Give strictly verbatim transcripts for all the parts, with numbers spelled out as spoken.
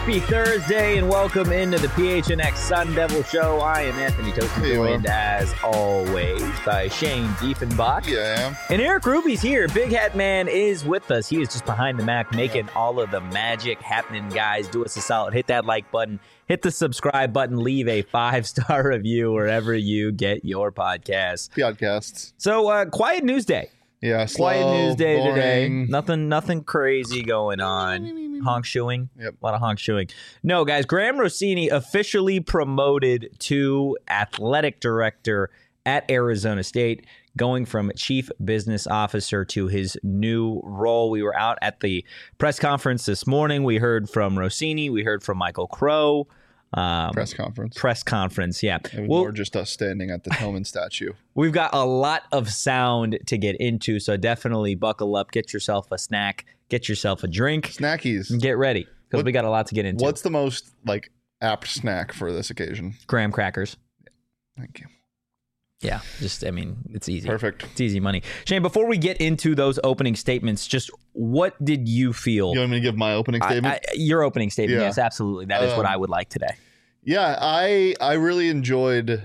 Happy Thursday and welcome into the P H N X Sun Devil Show. I am Anthony Tosin, Hey, joined as always by Shane Diefenbach. Yeah, I am. And Eric Ruby's here. Big Hat Man is with us. He is just behind the Mac making all of the magic happening, guys. Do us a solid. Hit that like button. Hit the subscribe button. Leave a five-star review wherever you get your podcasts. Podcasts. So, uh, quiet news day. Yeah, slow, Quiet news day boring. today. Nothing nothing crazy going on. Honk shoeing. Yep. A lot of honk shoeing. No, guys, Graham Rossini officially promoted to athletic director at Arizona State, going from chief business officer to his new role. We were out at the press conference this morning. We heard from Rossini. We heard from Michael Crow. Um, Press conference. Press conference, yeah. It was Well, more just us standing at the Tillman statue. we've got a lot of sound to get into, so definitely buckle up, get yourself a snack, get yourself a drink, Snackies. and get ready because What- we got a lot to get into. What's the most like apt snack for this occasion? graham crackers? Thank you. Yeah, just, I mean, it's easy. Perfect. It's easy money. Shane, before we get into those opening statements, just what did you feel? You want me to give my opening I- statement? I- your opening statement, Yeah. yes, absolutely. That is what Um, I would like today. yeah, I I really enjoyed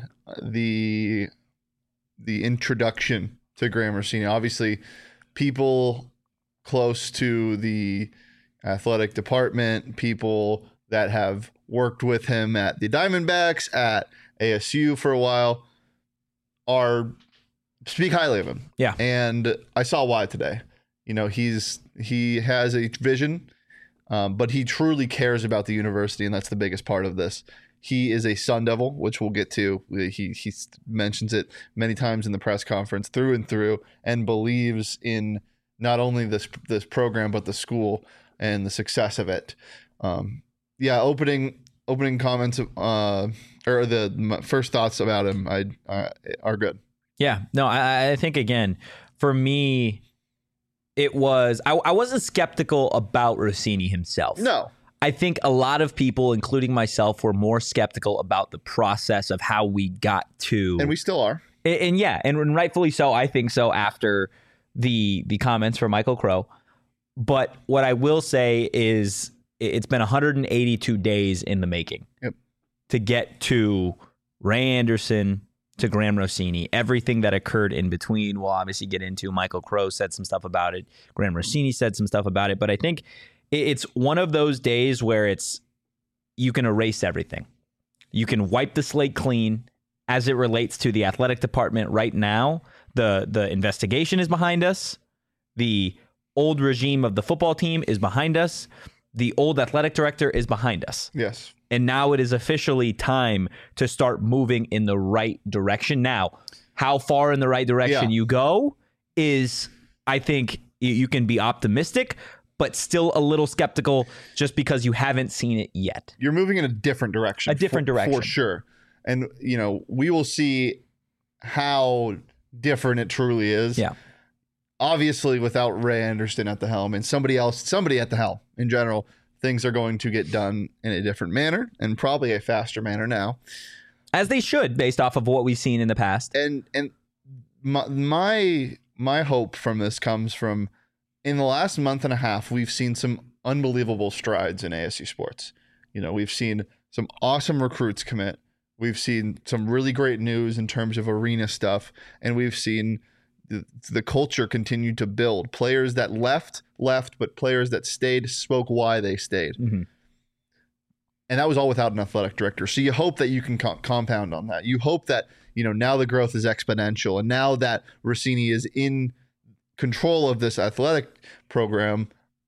the the introduction to Graham Rossini. Obviously, people close to the athletic department, people that have worked with him at the Diamondbacks, at A S U for a while, are speak highly of him. Yeah. And I saw why today. You know, he's he has a vision, um, but he truly cares about the university, and that's the biggest part of this. He is a Sun Devil, which we'll get to. He he mentions it many times in the press conference, through and through, and believes in not only this this program but the school and the success of it. Um, yeah, opening opening comments uh, or the my first thoughts about him I, I are good. Yeah, no, I, I think, again, for me, it was, I, I wasn't skeptical about Rossini himself. No. I think a lot of people, including myself, were more skeptical about the process of how we got to. And we still are. And, and yeah, and, and rightfully so. I think so after the the comments from Michael Crow. But what I will say is it's been one hundred eighty-two days in the making Yep. to get to Ray Anderson, to Graham Rossini, everything that occurred in between. We'll obviously get into. Michael Crow said some stuff about it. Graham Rossini said some stuff about it. But I think it's one of those days where it's you can erase everything. You can wipe the slate clean as it relates to the athletic department right now. The the investigation is behind us. The old regime of the football team is behind us. The old athletic director is behind us. Yes. And now it is officially time to start moving in the right direction. Now, how far in the right direction Yeah. you go is, I think, you- you can be optimistic, but still a little skeptical just because you haven't seen it yet. You're moving in a different direction. A different for, direction. For sure. And, you know, we will see how different it truly is. Yeah. Obviously, without Ray Anderson at the helm and somebody else, somebody at the helm in general, things are going to get done in a different manner and probably a faster manner now. As they should, based off of what we've seen in the past. And and my my, my hope from this comes from in the last month and a half, we've seen some unbelievable strides in A S U sports. You know, we've seen some awesome recruits commit. We've seen some really great news in terms of arena stuff, and we've seen the, the culture continue to build. Players that left, left, but players that stayed spoke why they stayed. Mm-hmm. And that was all without an athletic director. So you hope that you can co- compound on that. You hope that, you know, now the growth is exponential. And now that Rossini is in control of this athletic program,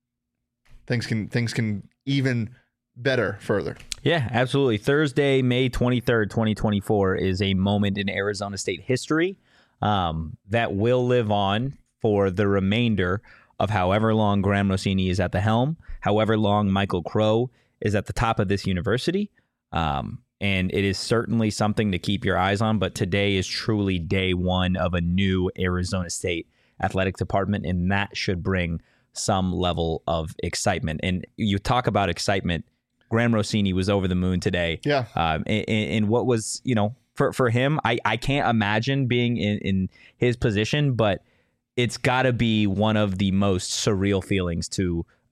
things can things can even better further. Yeah, absolutely. Thursday, May twenty-third, twenty twenty-four is a moment in Arizona State history um, that will live on for the remainder of however long Graham Rossini is at the helm, however long Michael Crow is at the top of this university. Um, and it is certainly something to keep your eyes on. But today is truly day one of a new Arizona State athletic department, and that should bring some level of excitement. And you talk about excitement. Graham Rossini was over the moon today. Yeah. Um, and, and what was, you know, for, for him, I, I can't imagine being in, in his position, but it's got to be one of the most surreal feelings to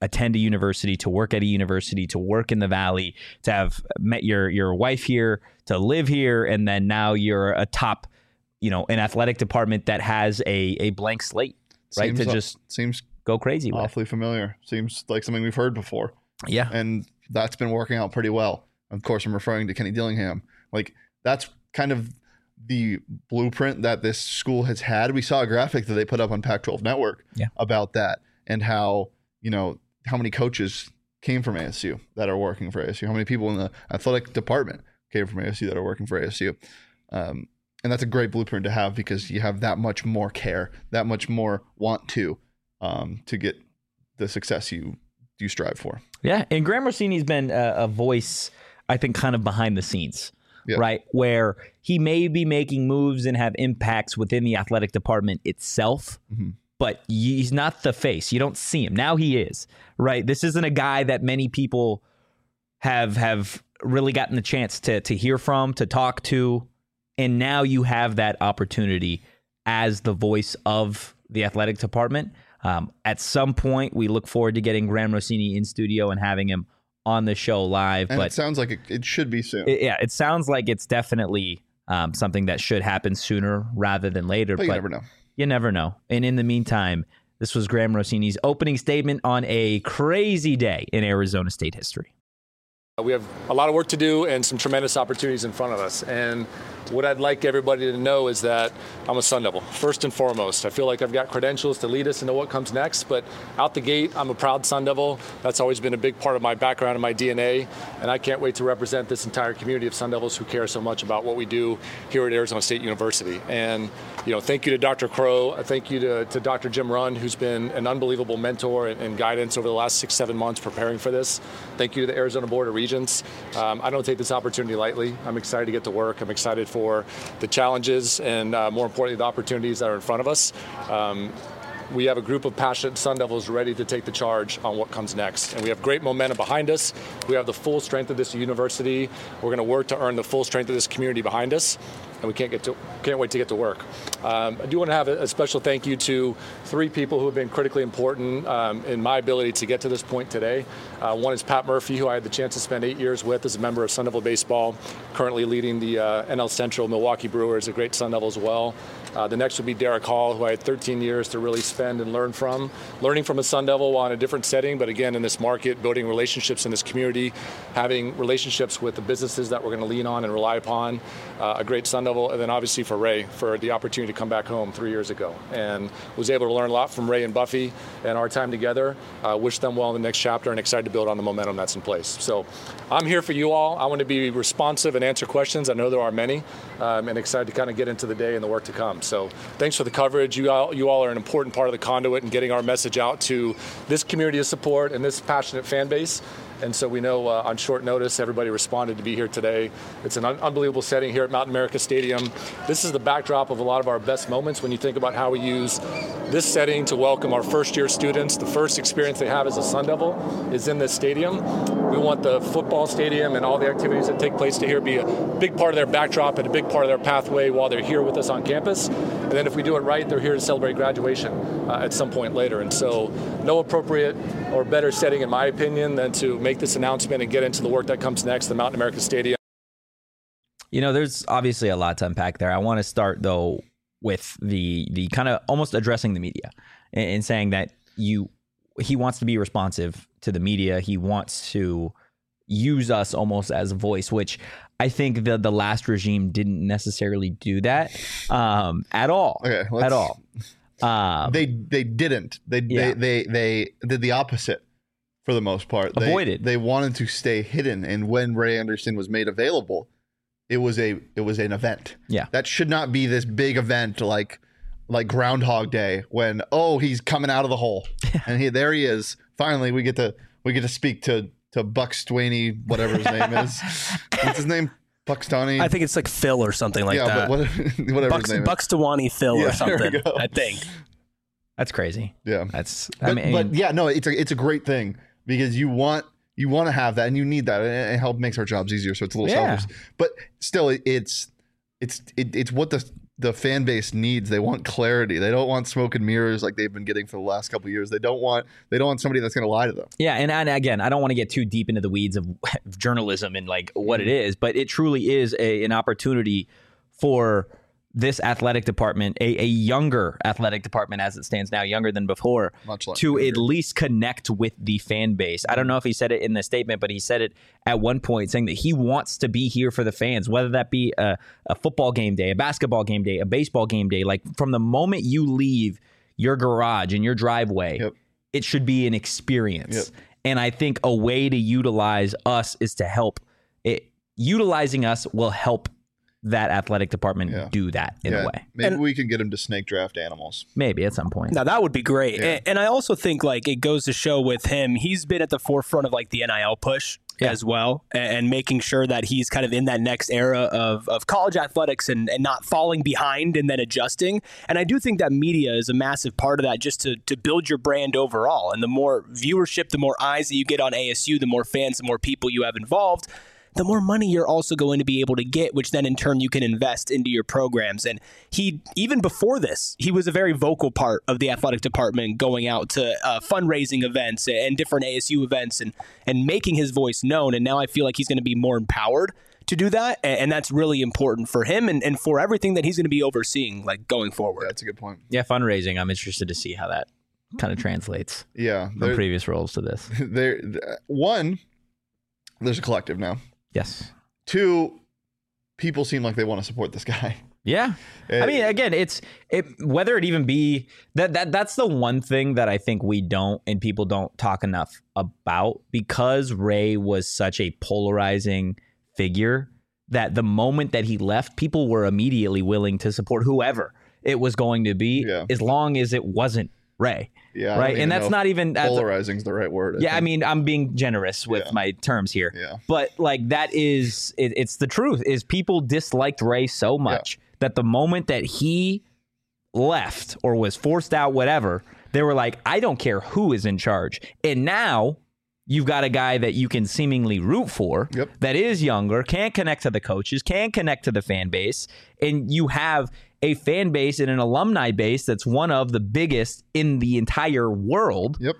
attend a university, to work at a university, to work in the Valley, to have met your your wife here, to live here, and then now you're a top, you know, an athletic department that has a a blank slate, right? Seems, to just seems go crazy with. Awfully familiar. Seems like something we've heard before. Yeah. And that's been working out pretty well. Of course, I'm referring to Kenny Dillingham. Like, that's kind of the blueprint that this school has had. We saw a graphic that they put up on Pac twelve Network yeah. about that, and how, you know, how many coaches came from A S U that are working for A S U, how many people in the athletic department came from A S U that are working for A S U. Um, and that's a great blueprint to have, because you have that much more care, that much more want to, um, to get the success you you strive for. Yeah, and Graham Rossini's been a, a voice, I think, kind of behind the scenes, yeah. right? Where he may be making moves and have impacts within the athletic department itself, mm-hmm. but he's not the face. You don't see him. Now he is, right? This isn't a guy that many people have have really gotten the chance to to hear from, to talk to, and now you have that opportunity as the voice of the athletic department. Um, at some point, we look forward to getting Graham Rossini in studio and having him on the show live. And but it sounds like it, it should be soon. It, yeah, it sounds like it's definitely um, something that should happen sooner rather than later. But you but never know. You never know. And in the meantime, this was Graham Rossini's opening statement on a crazy day in Arizona State history. We have a lot of work to do and some tremendous opportunities in front of us. And what I'd like everybody to know is that I'm a Sun Devil, first and foremost. I feel like I've got credentials to lead us into what comes next, but out the gate, I'm a proud Sun Devil. That's always been a big part of my background and my D N A, and I can't wait to represent this entire community of Sun Devils who care so much about what we do here at Arizona State University. And, you know, thank you to Doctor Crow. Thank you to, to Doctor Jim Runn, who's been an unbelievable mentor and, and guidance over the last six, seven months preparing for this. Thank you to the Arizona Board of Regents. Um, I don't take this opportunity lightly. I'm excited to get to work. I'm excited for the challenges and, uh, more importantly, the opportunities that are in front of us. Um, we have a group of passionate Sun Devils ready to take the charge on what comes next. And we have great momentum behind us. We have the full strength of this university. We're going to work to earn the full strength of this community behind us. And we can't get to, can't wait to get to work. Um, I do want to have a, a special thank you to three people who have been critically important um, in my ability to get to this point today. Uh, one is Pat Murphy, who I had the chance to spend eight years with as a member of Sun Devil Baseball, currently leading the uh, N L Central Milwaukee Brewers, a great Sun Devil as well. Uh, the next would be Derek Hall, who I had thirteen years to really spend and learn from. Learning from a Sun Devil while in a different setting, but again, in this market, building relationships in this community, having relationships with the businesses that we're going to lean on and rely upon. Uh, a great Sun Devil, and then obviously for Ray, for the opportunity to come back home three years ago. And was able to learn a lot from Ray and Buffy and our time together. Uh, wish them well in the next chapter and excited to build on the momentum that's in place. So I'm here for you all. I want to be responsive and answer questions. I know there are many, um, and excited to kind of get into the day and the work to come. So thanks for the coverage. You all, you all are an important part of the conduit in getting our message out to this community of support and this passionate fan base. And so we know uh, on short notice, everybody responded to be here today. It's an un- unbelievable setting here at Mountain America Stadium. This is the backdrop of a lot of our best moments when you think about how we use this setting to welcome our first-year students. The first experience they have as a Sun Devil is in this stadium. We want the football stadium and all the activities that take place to here be a big part of their backdrop and a big part of their pathway while they're here with us on campus. And then if we do it right, they're here to celebrate graduation uh, at some point later. And so no appropriate or better setting, in my opinion, than to make this announcement and get into the work that comes next, the Mountain America Stadium. You know, there's obviously a lot to unpack there. I want to start, though, with the the kind of almost addressing the media and, and saying that you he wants to be responsive to the media. He wants to use us almost as a voice, which I think the the last regime didn't necessarily do that um, at all. Okay, at all. Um, they they didn't. They, yeah. they they they did the opposite for the most part. Avoided. They, they wanted to stay hidden, and when Ray Anderson was made available, it was a it was an event. Yeah, that should not be this big event like like Groundhog Day when oh he's coming out of the hole and he there he is. Finally, we get to we get to speak to to Buck Swaney, whatever his name is. What's his name? Buxtoni? I think it's like Phil or something like yeah, that. But what, whatever Bucks, his name Buxtawani Phil yeah, or something, I think. That's crazy. Yeah. That's, but, I mean, but yeah, no, it's a, it's a great thing because you want, you want to have that and you need that and it helps makes our jobs easier. So it's a little yeah. selfish, but still it, it's, it's, it, it's what the, the fan base needs. They want clarity. They don't want smoke and mirrors like they've been getting for the last couple of years. They don't want they don't want somebody that's going to lie to them. Yeah, and, and again, I don't want to get too deep into the weeds of journalism and like what it is, but it truly is a, an opportunity for this athletic department, a, a younger athletic department as it stands now, younger than before, Much like to younger. at least connect with the fan base. I don't know if he said it in the statement, but he said it at one point, saying that he wants to be here for the fans, whether that be a, a football game day, a basketball game day, a baseball game day. Like from the moment you leave your garage and your driveway, Yep. it should be an experience. Yep. And I think a way to utilize us is to help it. Utilizing us will help that athletic department Yeah. do that in Yeah, a way. maybe And- we can get him to snake draft animals. Maybe at some point. Now that would be great. Yeah. And, and I also think like it goes to show with him, he's been at the forefront of like the N I L push Yeah. as well, and, and making sure that he's kind of in that next era of, of college athletics and, and not falling behind and then adjusting. And I do think that media is a massive part of that, just to, to build your brand overall. And the more viewership, the more eyes that you get on A S U, the more fans, the more people you have involved, the more money you're also going to be able to get, which then in turn you can invest into your programs. And he, even before this, he was a very vocal part of the athletic department, going out to uh, fundraising events and different A S U events and, and making his voice known. And now I feel like he's going to be more empowered to do that. And that's really important for him and, and for everything that he's going to be overseeing, like going forward. That's a good point. Yeah, fundraising. I'm interested to see how that kind of translates Yeah, from there, previous roles to this. there. One, there's a collective now. Yes. Two, people seem like they want to support this guy. Yeah. I mean, again, it's it whether it even be that that that's the one thing that I think we don't and people don't talk enough about, because Ray was such a polarizing figure that the moment that he left, people were immediately willing to support whoever it was going to be, Yeah. as long as it wasn't Ray. Yeah, I don't Right. even And that's know not even that's- polarizing is the right word. yeah, I think. mean, I'm being generous with Yeah. my terms here. Yeah. But like that is it, it's the truth is people disliked Ray so much that the moment that he left or was forced out, whatever, they were like, I don't care who is in charge. And now you've got a guy that you can seemingly root for, Yep. that is younger, can't connect to the coaches, can't connect to the fan base, and you have a fan base and an alumni base that's one of the biggest in the entire world. Yep.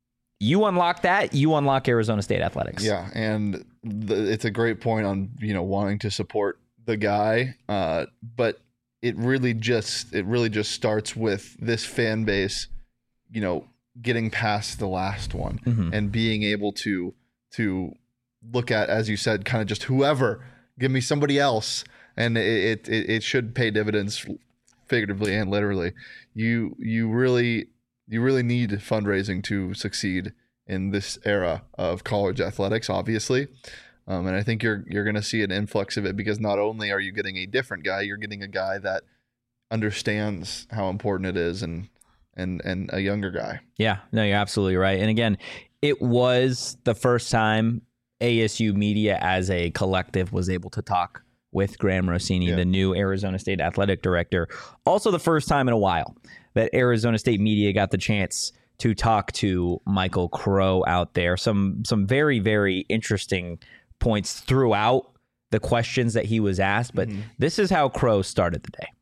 You unlock that, you unlock Arizona State athletics. Yeah, and the, it's a great point on, you know, wanting to support the guy, uh, but it really just it really just starts with this fan base, you know, getting past the last one Mhm. and being able to to look at, as you said, kind of just whoever, give me somebody else, and it it, it should pay dividends, figuratively and literally. You you really you really need fundraising to succeed in this era of college athletics, obviously. Um, and I think you're you're going to see an influx of it, because not only are you getting a different guy, you're getting a guy that understands how important it is, and and and a younger guy. Yeah, no, you're absolutely right. And again, it was the first time A S U media as a collective was able to talk with Graham Rossini, Yeah. the new Arizona State athletic director. Also the first time in a while that Arizona State media got the chance to talk to Michael Crow out there. Some some very, very interesting points throughout the questions that he was asked. But Mm-hmm. this is how Crow started the day.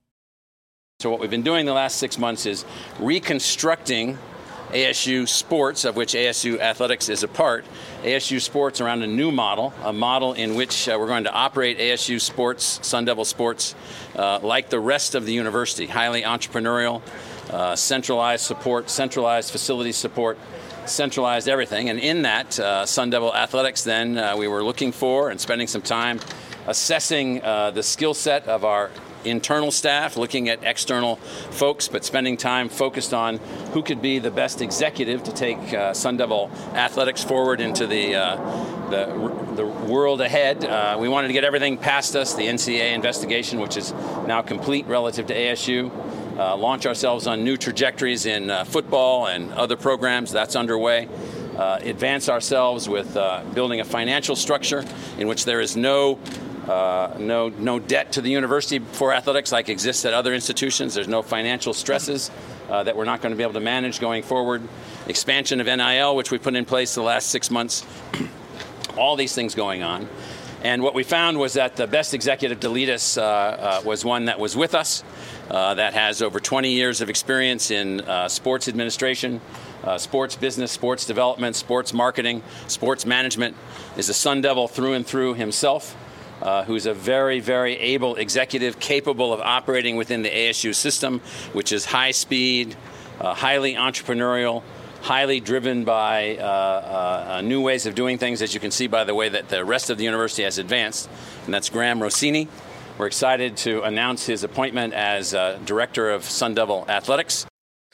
So what we've been doing the last six months is reconstructing A S U sports, of which A S U athletics is a part. A S U sports around a new model, a model in which uh, we're going to operate A S U sports, Sun Devil sports, uh, like the rest of the university, highly entrepreneurial, uh, centralized support, centralized facility support, centralized everything. And in that, uh, Sun Devil athletics, then uh, we were looking for and spending some time assessing uh, the skill set of our internal staff, looking at external folks, but spending time focused on who could be the best executive to take uh, Sun Devil athletics forward into the uh, the, the world ahead. Uh, we wanted to get everything past us, the N C double A investigation, which is now complete relative to A S U, uh, launch ourselves on new trajectories in uh, football and other programs. That's underway. Uh, advance ourselves with uh, building a financial structure in which there is no Uh, no no debt to the university for athletics like exists at other institutions. There's no financial stresses uh, that we're not going to be able to manage going forward. Expansion of N I L, which we put in place the last six months. All these things going on. And what we found was that the best executive to lead us uh, uh, was one that was with us, uh, that has over twenty years of experience in uh, sports administration, uh, sports business, sports development, sports marketing, sports management, is a Sun Devil through and through himself, uh, who's a very, very able executive capable of operating within the A S U system, which is high speed, uh, highly entrepreneurial, highly driven by uh, uh, new ways of doing things, as you can see by the way that the rest of the university has advanced, and that's Graham Rossini. We're excited to announce his appointment as uh, Director of Sun Devil Athletics.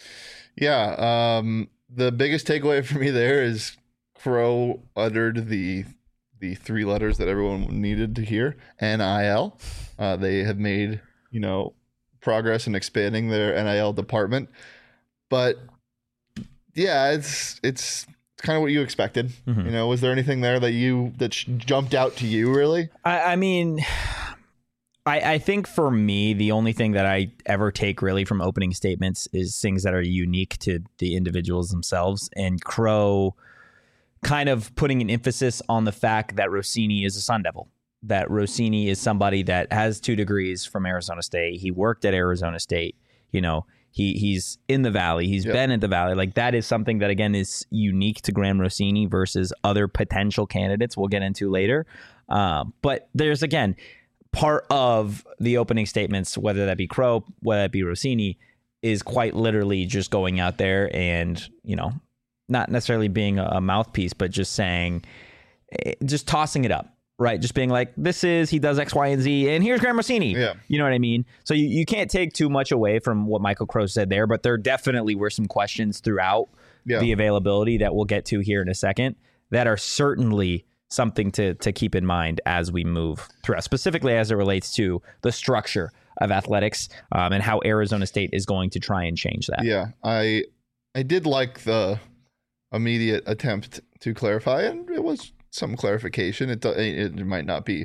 Yeah, um, the biggest takeaway for me there is Crow uttered the the three letters that everyone needed to hear, N I L. Uh, they have made, you know, progress in expanding their N I L department, but yeah, it's it's kind of what you expected. Mm-hmm. You know, was there anything there that you that jumped out to you, really? I, I mean, I, I think for me, the only thing that I ever take really from opening statements is things that are unique to the individuals themselves. And Crow kind of putting an emphasis on the fact that Rossini is a Sun Devil, that Rossini is somebody that has two degrees from Arizona State. He worked at Arizona State, you know. He he's in the Valley. He's yep. been at the Valley. Like, that is something that, again, is unique to Graham Rossini versus other potential candidates we'll get into later. Uh, but there's, again, part of the opening statements, whether that be Crow, whether that be Rossini, is quite literally just going out there and, you know, not necessarily being a mouthpiece, but just saying, just tossing it up. Right, just being like, this is, he does X, Y, and Z, and here's Graham Rossini. Yeah. You know what I mean? So you, you can't take too much away from what Michael Crow said there, but there definitely were some questions throughout yeah. the availability that we'll get to here in a second that are certainly something to to keep in mind as we move throughout, specifically as it relates to the structure of athletics um, and how Arizona State is going to try and change that. Yeah, I I did like the immediate attempt to clarify, and it was some clarification. It it might not be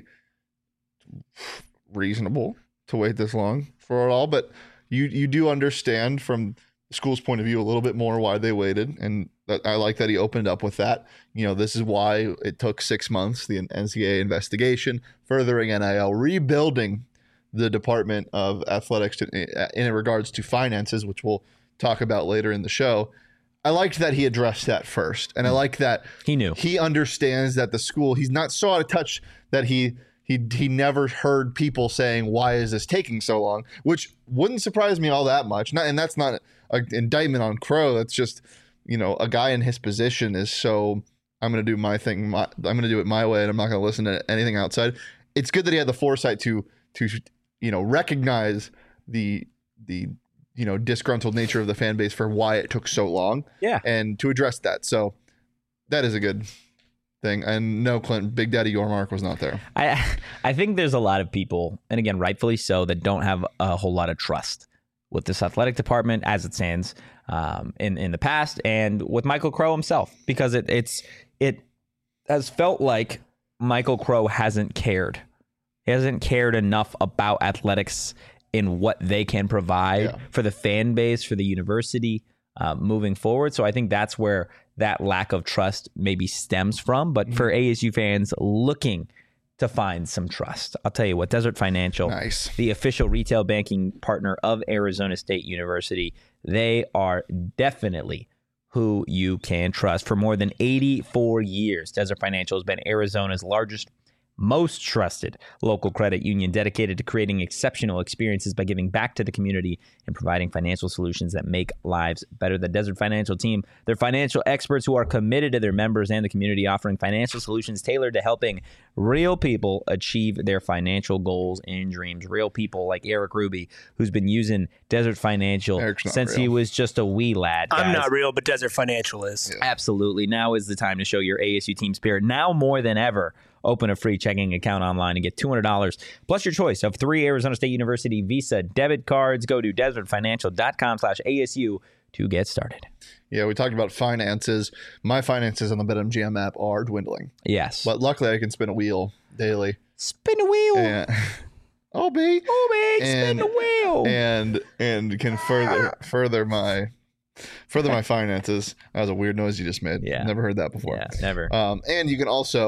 reasonable to wait this long for it all, but you you do understand from the school's point of view a little bit more why they waited, and that, I like that he opened up with that. You know, this is why it took six months, the N C double A investigation, furthering N I L, rebuilding the Department of Athletics to, in regards to finances, which we'll talk about later in the show. I liked that he addressed that first, and I like that he knew he understands that the school, he's not so out of touch that he he he never heard people saying, why is this taking so long, which wouldn't surprise me all that much. Not, and that's not an indictment on Crow. That's just, you know, a guy in his position is so, I'm going to do my thing, my, I'm going to do it my way, and I'm not going to listen to anything outside. It's good that he had the foresight to to you know recognize the the you know, disgruntled nature of the fan base for why it took so long. Yeah. And to address that. So that is a good thing. And no, Clinton, Big Daddy Yormark was not there. I I think there's a lot of people, and again, rightfully so, that don't have a whole lot of trust with this athletic department as it stands um, in, in the past, and with Michael Crow himself, because it it's it has felt like Michael Crow hasn't cared. He hasn't cared enough about athletics in what they can provide yeah. for the fan base, for the university uh, moving forward. So I think that's where that lack of trust maybe stems from. But mm-hmm. for A S U fans looking to find some trust, I'll tell you what, Desert Financial, nice. the official retail banking partner of Arizona State University, they are definitely who you can trust. For more than eighty-four years, Desert Financial has been Arizona's largest, most trusted local credit union, dedicated to creating exceptional experiences by giving back to the community and providing financial solutions that make lives better. The Desert Financial team, they're financial experts who are committed to their members and the community, offering financial solutions tailored to helping real people achieve their financial goals and dreams. Real people like Eric Ruby, who's been using Desert Financial since real. he was just a wee lad. I'm guys. not real, but Desert Financial is. Yeah. Absolutely. Now is the time to show your A S U team spirit. Now more than ever, open a free checking account online and get two hundred dollars plus your choice of three Arizona State University Visa debit cards. Go to desert financial dot com slash A S U to get started. Yeah, we talked about finances. My finances on the BetMGM app are dwindling. Yes. But luckily I can spin a wheel daily. Spin a wheel. And, oh, B. Oh, B. Spin a wheel. And and can further further my further my finances. That was a weird noise you just made. Yeah. Never heard that before. Yeah, never. Um, and you can also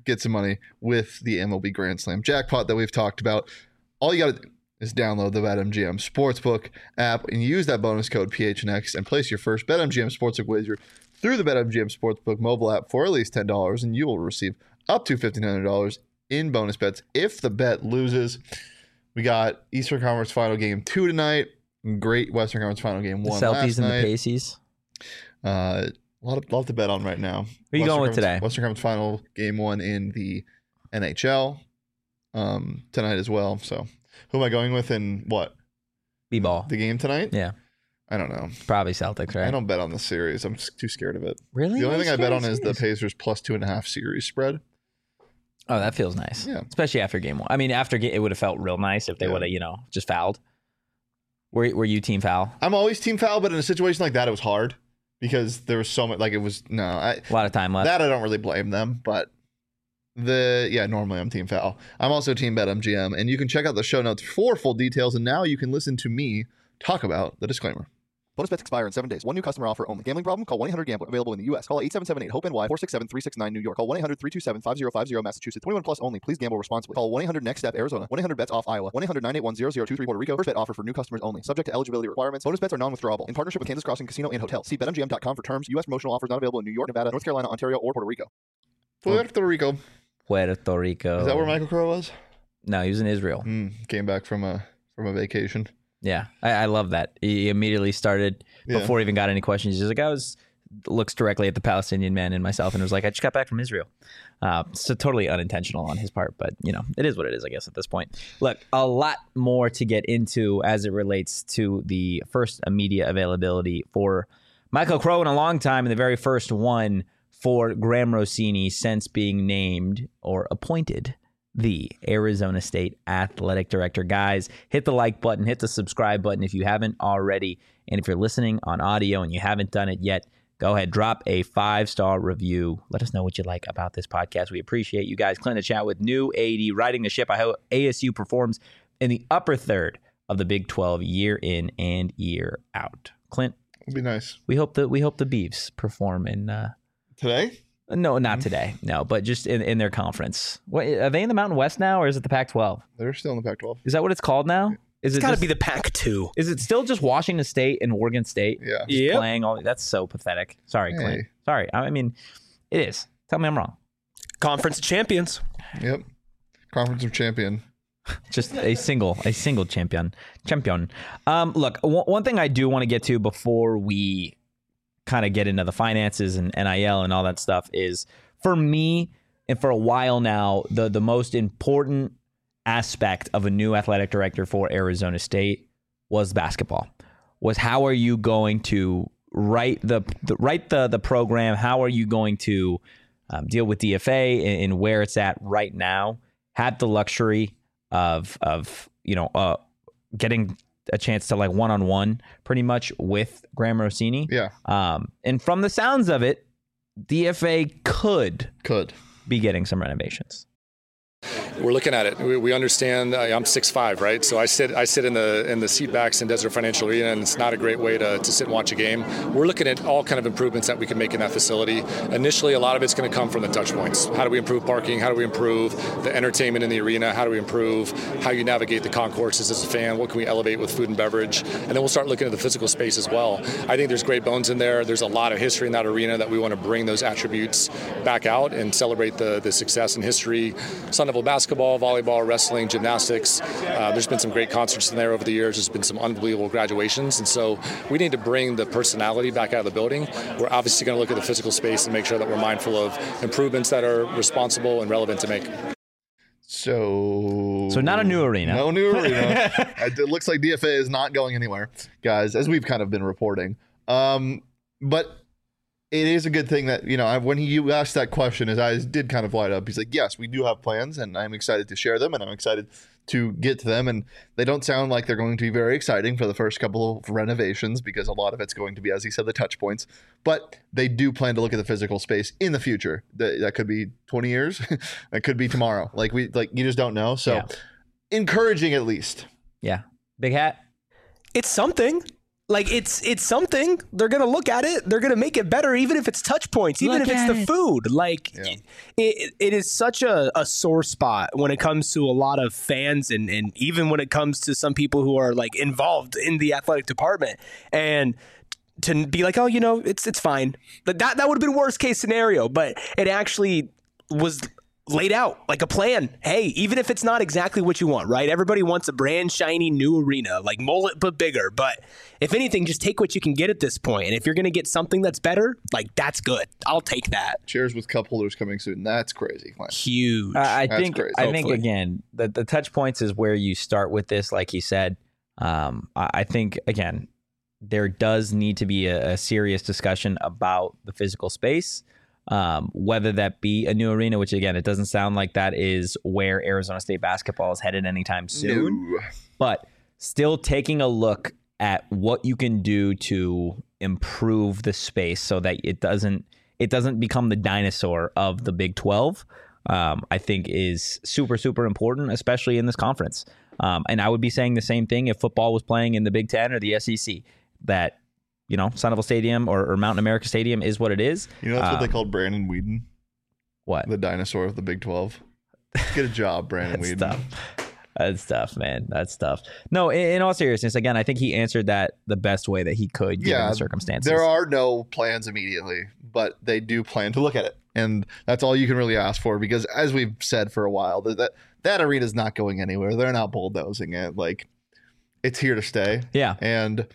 get some money with the M L B Grand Slam jackpot that we've talked about. All you got to do is download the BetMGM Sportsbook app and use that bonus code P H N X and place your first BetMGM Sportsbook wager through the BetMGM Sportsbook mobile app for at least ten dollars, and you will receive up to fifteen hundred dollars in bonus bets if the bet loses. We got Eastern Conference Final Game two tonight. Great Western Conference Final Game one The Celtics last and night. the Pacers. Uh, a lot of lot to bet on right now. Who are you going with Conference, today? Western Conference Final Game one in the N H L um, tonight as well. So who am I going with in what? B-ball. The game tonight? Yeah. I don't know. Probably Celtics, right? I don't bet on the series. I'm just too scared of it. Really? The only thing I bet on is the series? Pacers plus two and a half series spread. Oh, that feels nice. Yeah. Especially after game one. I mean, after ga- it would have felt real nice if they Yeah. would have, you know, just fouled. Were, were you team foul? I'm always team foul, but in a situation like that, it was hard because there was so much. Like it was no, I, A lot of time left. that I don't really blame them, but the yeah, normally I'm team foul. I'm also team BetMGM, and you can check out the show notes for full details. And now you can listen to me talk about the disclaimer. Bonus bets expire in seven days. One new customer offer only. Gambling problem? Call one eight hundred gambler. Available in the U S. Call eight seven seven eight hope N Y four six seven three six nine New York. Call one eight hundred three two seven five zero five zero Massachusetts. twenty-one plus only. Please gamble responsibly. Call one eight hundred next step Arizona. one eight hundred bets off Iowa. one eight hundred nine eight one zero zero two three Puerto Rico. First bet offer for new customers only. Subject to eligibility requirements. Bonus bets are non-withdrawable. In partnership with Kansas Crossing Casino and Hotel. See bet M G M dot com for terms. U S promotional offers not available in New York, Nevada, North Carolina, Ontario, or Puerto Rico. Puerto Rico. Puerto Rico. Is that where Michael Crow was? No, he was in Israel. Mm, came back from a from a vacation. Yeah, I, I love that. He immediately started Yeah. before he even got any questions. He's just like, I was looks directly at the Palestinian man and myself, and was like, I just got back from Israel. Uh, so totally unintentional on his part, but you know, it is what it is, I guess, at this point. Look, a lot more to get into as it relates to the first media availability for Michael Crow in a long time, and the very first one for Graham Rossini since being named or appointed the Arizona State Athletic Director. Guys, hit the like button, hit the subscribe button if you haven't already. And if you're listening on audio and you haven't done it yet, go ahead, drop a five-star review. Let us know what you like about this podcast. We appreciate you guys. Clint, a chat with new A D riding the ship. I hope A S U performs in the upper third of the Big twelve year in and year out. Clint, It'd be nice. we hope that we hope the Beavs perform in uh, Today? no, not today. No, but just in, in their conference. What, are they in the Mountain West now, or is it the Pac twelve? They're still in the Pac twelve. Is that what it's called now? Is It's it got to just- be the Pac two. Is it still just Washington State and Oregon State? Yeah. Just Yep. playing all. That's so pathetic. Sorry, Clint. Hey. Sorry. I mean, it is. Tell me I'm wrong. Conference of Champions. Yep. Conference of Champion. Just a single, a single champion. Champion. Um, look, w- one thing I do want to get to before we kind of get into the finances and N I L and all that stuff is, for me, and for a while now, the the most important aspect of a new athletic director for Arizona State was basketball. Was how are you going to write the, the write the the program? How are you going to um, deal with D F A and, and where it's at right now? Had the luxury of of you know uh, getting a chance to like one on one pretty much with Graham Rossini. Yeah. Um, and from the sounds of it, D F A could Could. be getting some renovations. We're looking at it. We, we understand. Uh, I'm six five, right? So I sit I sit in the in the seat backs in Desert Financial Arena, and it's not a great way to, to sit and watch a game. We're looking at all kind of improvements that we can make in that facility. Initially, a lot of it's going to come from the touch points. How do we improve parking? How do we improve the entertainment in the arena? How do we improve how you navigate the concourses as a fan? What can we elevate with food and beverage? And then we'll start looking at the physical space as well. I think there's great bones in there. There's a lot of history in that arena that we want to bring those attributes back out and celebrate the, the success and history. Sun Devil basketball, volleyball, wrestling, gymnastics. Uh, there's been some great concerts in there over the years. There's been some unbelievable graduations. And so we need to bring the personality back out of the building. We're obviously going to look at the physical space and make sure that we're mindful of improvements that are responsible and relevant to make. So So not a new arena. No new arena. It looks like D F A is not going anywhere, guys, as we've kind of been reporting. Um, but it is a good thing that, you know, I, when he, you asked that question, his eyes did kind of light up. He's like, yes, we do have plans, and I'm excited to share them, and I'm excited to get to them. And they don't sound like they're going to be very exciting for the first couple of renovations, because a lot of it's going to be, as he said, the touch points. But they do plan to look at the physical space in the future. That, that could be twenty years. That could be tomorrow. Like we, like you just don't know. So Yeah. encouraging, at least. Yeah. Big hat. It's something. Like, it's it's something. They're going to look at it. They're going to make it better, even if it's touch points, even Look if it's at the it. food. Like, Yeah. it, it is such a, a sore spot when it comes to a lot of fans and, and even when it comes to some people who are, like, involved in the athletic department. And to be like, oh, you know, it's it's fine. But that, that would have been worst case scenario. But it actually was laid out like a plan. Hey, even if it's not exactly what you want, right? Everybody wants a brand shiny new arena, like mullet but bigger. But if anything, just take what you can get at this point. And if you're going to get something that's better, like that's good. I'll take that. Chairs with cup holders coming soon. That's crazy. Clint. Huge. I I That's think crazy. I think Hopefully. again the the touch points is where you start with this, like he said. Um, I, I think again there does need to be a, a serious discussion about the physical space, um, whether that be a new arena, which again it doesn't sound like that is where Arizona State basketball is headed anytime soon. No. But still taking a look at what you can do to improve the space so that it doesn't it doesn't become the dinosaur of the Big twelve, um, I think is super, super important, especially in this conference. Um, and I would be saying the same thing if football was playing in the Big Ten or the S E C, that, you know, Sun Devil Stadium or, or Mountain America Stadium is what it is. You know that's what Um, they called Brandon Whedon, What? the dinosaur of the Big twelve. Get a job, Brandon That's Whedon. tough. That's tough, man. That's tough. No, in, in all seriousness, again, I think he answered that the best way that he could, given Yeah, the circumstances. There are no plans immediately, but they do plan to look at it, and that's all you can really ask for. Because as we've said for a while, that that, that arena is not going anywhere. They're not bulldozing it. Like, it's here to stay. Yeah. And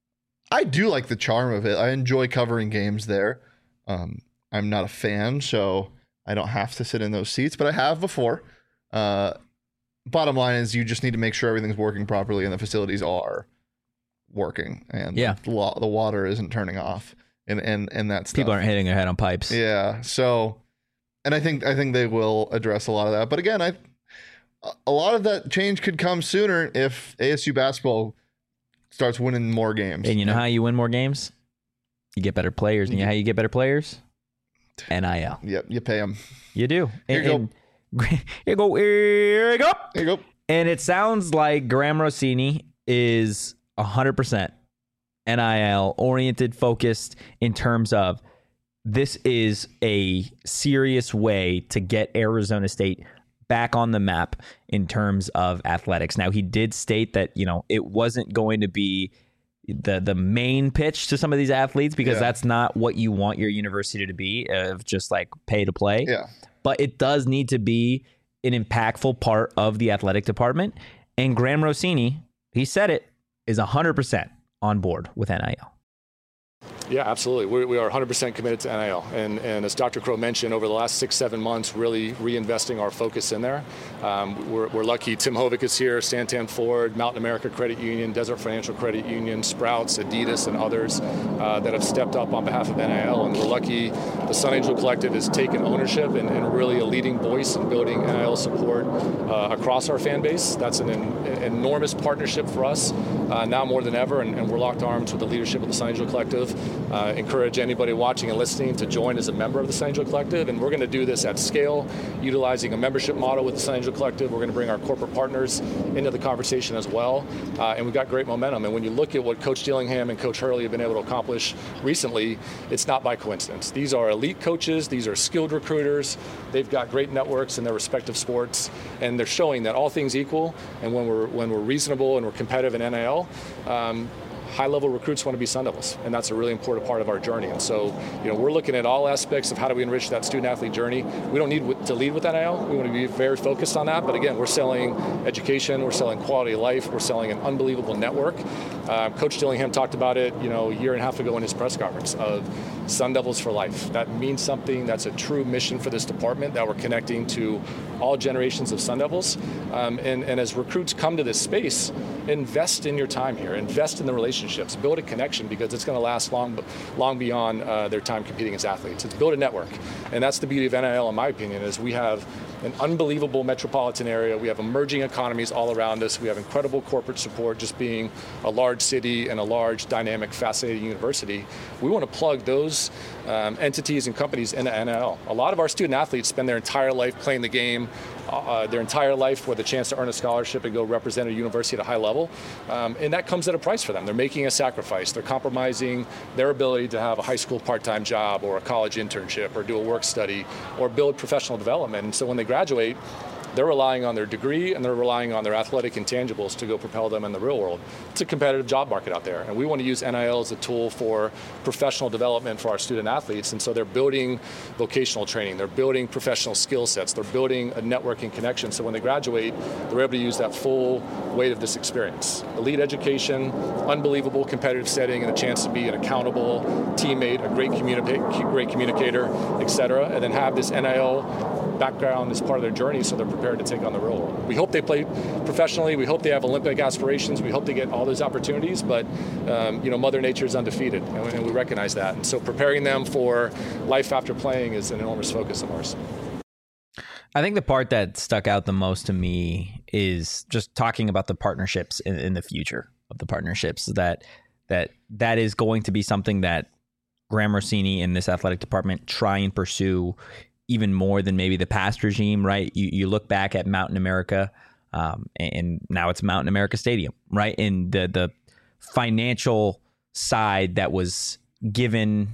I do like the charm of it. I enjoy covering games there. Um, I'm not a fan, so I don't have to sit in those seats, but I have before. Uh, bottom line is you just need to make sure everything's working properly and the facilities are working, and Yeah. the, wa- the water isn't turning off, and and and that's People aren't hitting their head on pipes. yeah. So, and I think I think they will address a lot of that. But again, I a lot of that change could come sooner if A S U basketball starts winning more games. And you know how you win more games? You get better players. And you know how you get better players? N I L. Yep, you pay them. You do. Here you and, and, here you go. Here you go. There you go. And it sounds like Graham Rossini is one hundred percent N I L oriented, focused in terms of this is a serious way to get Arizona State back on the map in terms of athletics. Now, he did state that, you know, it wasn't going to be the the main pitch to some of these athletes because Yeah. that's not what you want your university to be, of just like pay to play. Yeah. But it does need to be an impactful part of the athletic department. And Graham Rossini, he said it, is one hundred percent on board with N I L. Yeah, absolutely. We, we are one hundred percent committed to N I L. And, and as Doctor Crow mentioned, over the last six, seven months, really reinvesting our focus in there. Um, we're, we're lucky Tim Hovick is here, Santan Ford, Mountain America Credit Union, Desert Financial Credit Union, Sprouts, Adidas, and others uh, that have stepped up on behalf of N I L. And we're lucky the Sun Angel Collective has taken ownership and, and really a leading voice in building N I L support uh, across our fan base. That's an, an enormous partnership for us uh, now more than ever. And, and we're locked arms with the leadership of the Sun Angel Collective. Uh, encourage anybody watching and listening to join as a member of the Sun Angel Collective, and we're going to do this at scale, utilizing a membership model with the Sun Angel Collective. We're going to bring our corporate partners into the conversation as well, uh, and we've got great momentum. And when you look at what Coach Dillingham and Coach Hurley have been able to accomplish recently, it's not by coincidence. These are elite coaches, these are skilled recruiters, they've got great networks in their respective sports, and they're showing that all things equal, and when we're when we're reasonable and we're competitive in N I L, um, high-level recruits want to be Sun Devils, and that's a really important part of our journey. And so, you know, we're looking at all aspects of how do we enrich that student-athlete journey. We don't need to lead with N I L. We want to be very focused on that. But again, we're selling education, we're selling quality of life, we're selling an unbelievable network. Uh, Coach Dillingham talked about it, you know, a year and a half ago in his press conference of Sun Devils for life. That means something. That's a true mission for this department, that we're connecting to all generations of Sun Devils. Um, and, and as recruits come to this space, invest in your time here, invest in the relationships, build a connection, because it's going to last long, long beyond uh, their time competing as athletes. It's build a network. And that's the beauty of N I L, in my opinion, is we have an unbelievable metropolitan area. We have emerging economies all around us. We have incredible corporate support, just being a large city and a large, dynamic, fascinating university. We want to plug those um, entities and companies into N I L. A lot of our student athletes spend their entire life playing the game uh, their entire life with a chance to earn a scholarship and go represent a university at a high level. Um, and that comes at a price for them. They're making a sacrifice. They're compromising their ability to have a high school part-time job or a college internship or do a work study or build professional development. And so when they graduate, they're relying on their degree and they're relying on their athletic intangibles to go propel them in the real world. It's a competitive job market out there, and we want to use N I L as a tool for professional development for our student athletes. And so they're building vocational training, they're building professional skill sets, they're building a networking connection. So when they graduate, they're able to use that full weight of this experience. Elite education, unbelievable competitive setting, and a chance to be an accountable teammate, a great, communi- great communicator, et cetera, and then have this N I L background as part of their journey so they're prepared to take on the real world. We hope they play professionally. We hope they have Olympic aspirations. We hope they get all those opportunities, but um, you know, Mother Nature is undefeated, and we, and we recognize that. And so preparing them for life after playing is an enormous focus of ours. I think the part that stuck out the most to me is just talking about the partnerships in, in the future of the partnerships, that that that is going to be something that Graham Rossini and this athletic department try and pursue even more than maybe the past regime, right? You you look back at Mountain America, um, and now it's Mountain America Stadium, right? And the the financial side that was given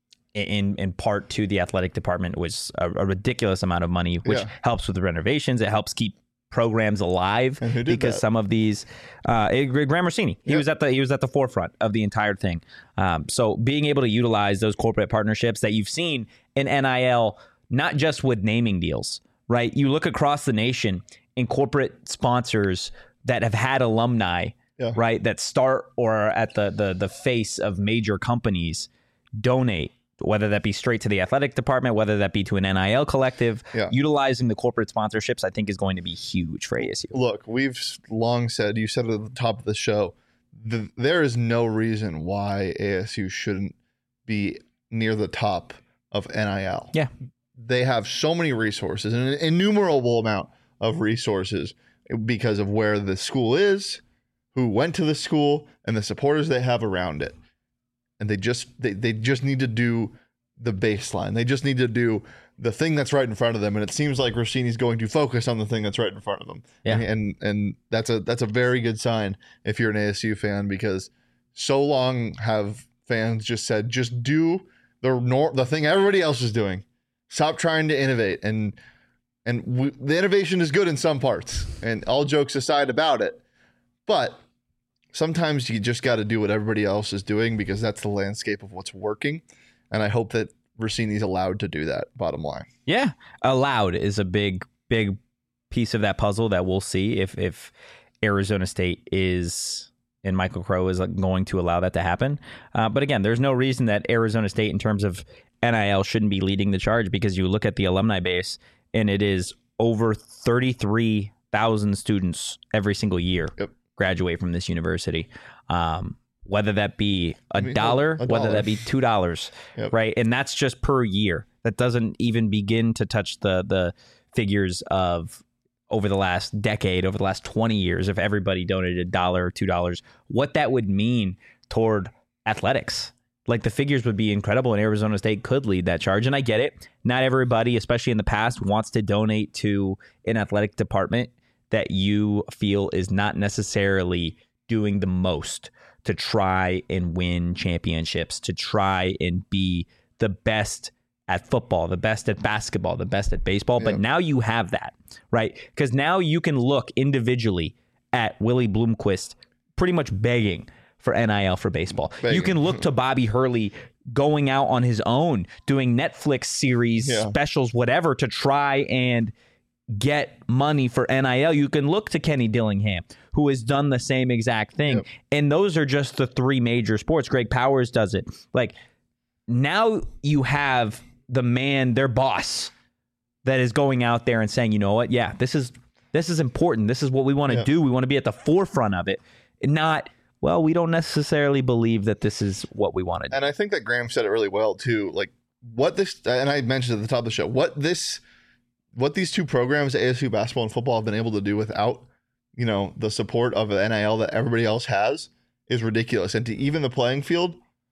in in part to the athletic department was a, a ridiculous amount of money, which Yeah. helps with the renovations. It helps keep programs alive And who did because that? some of these, uh, it- Graham Rossini, he Yeah. was at the he was at the forefront of the entire thing. Um, so being able to utilize those corporate partnerships that you've seen in N I L. Not just with naming deals, right? You look across the nation in corporate sponsors that have had alumni, Yeah. right, that start or are at the, the the face of major companies, donate, whether that be straight to the athletic department, whether that be to an N I L collective. Yeah. Utilizing the corporate sponsorships, I think, is going to be huge for A S U. Look, we've long said, you said it at the top of the show, the, there is no reason why A S U shouldn't be near the top of N I L. Yeah. They have so many resources, an innumerable amount of resources because of where the school is, who went to the school, and the supporters they have around it. And they just they, they just need to do the baseline. They just need to do the thing that's right in front of them. And it seems like Rossini's going to focus on the thing that's right in front of them. Yeah. And and, and that's a that's a very good sign if you're an A S U fan, because so long have fans just said, just do the nor- the thing everybody else is doing. Stop trying to innovate, and and we, the innovation is good in some parts, and all jokes aside about it, but sometimes you just got to do what everybody else is doing because that's the landscape of what's working, and I hope that Rossini's allowed to do that. Bottom line, Yeah, allowed is a big, big piece of that puzzle that we'll see if if Arizona State is and Michael Crow is going to allow that to happen. Uh, but again, there's no reason that Arizona State, in terms of N I L, shouldn't be leading the charge, because you look at the alumni base and it is over thirty-three thousand students every single year Yep. graduate from this university. Um, whether that be a I mean, dollar, a whether dollar. that be two dollars, Yep. right? And that's just per year. That doesn't even begin to touch the the figures of over the last decade, over the last twenty years, if everybody donated a dollar or two dollars, what that would mean toward athletics. Like, the figures would be incredible, and Arizona State could lead that charge. And I get it. Not everybody, especially in the past, wants to donate to an athletic department that you feel is not necessarily doing the most to try and win championships, to try and be the best at football, the best at basketball, the best at baseball. But Yeah. now you have that, right? Because now you can look individually at Willie Bloomquist pretty much begging for N I L for baseball. Begging. You can look to Bobby Hurley going out on his own, doing Netflix series, Yeah. specials, whatever, to try and get money for N I L. You can look to Kenny Dillingham, who has done the same exact thing. Yep. And those are just the three major sports. Greg Powers does it. Like, now you have the man, their boss, that is going out there and saying, you know what? Yeah, this is this is important. This is what we want to Yeah. do. We want to be at the forefront of it. And not, well, we don't necessarily believe that this is what we want to do. and I think that Graham said it really well too. Like, what this, and I mentioned at the top of the show, what this, what these two programs, A S U basketball and football, have been able to do without, you know, the support of N I L that everybody else has is ridiculous. And to even the playing field,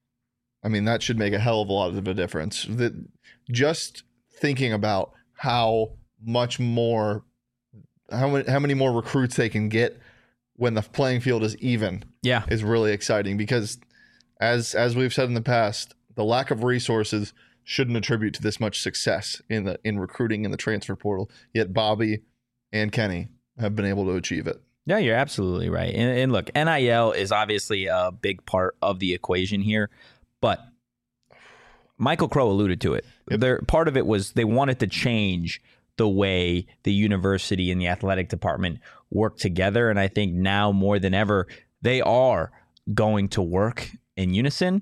I mean, that should make a hell of a lot of a difference. That just thinking about how much more how many how many more recruits they can get when the playing field is even. Yeah, is really exciting because, as as we've said in the past, the lack of resources shouldn't attribute to this much success in the in recruiting in the transfer portal. Yet Bobby and Kenny have been able to achieve it. Yeah, you're absolutely right. And, and look, N I L is obviously a big part of the equation here, but Michael Crow alluded to it. Yep. There, part of it was they wanted to change the way the university and the athletic department work together. And I think now more than ever, they are going to work in unison.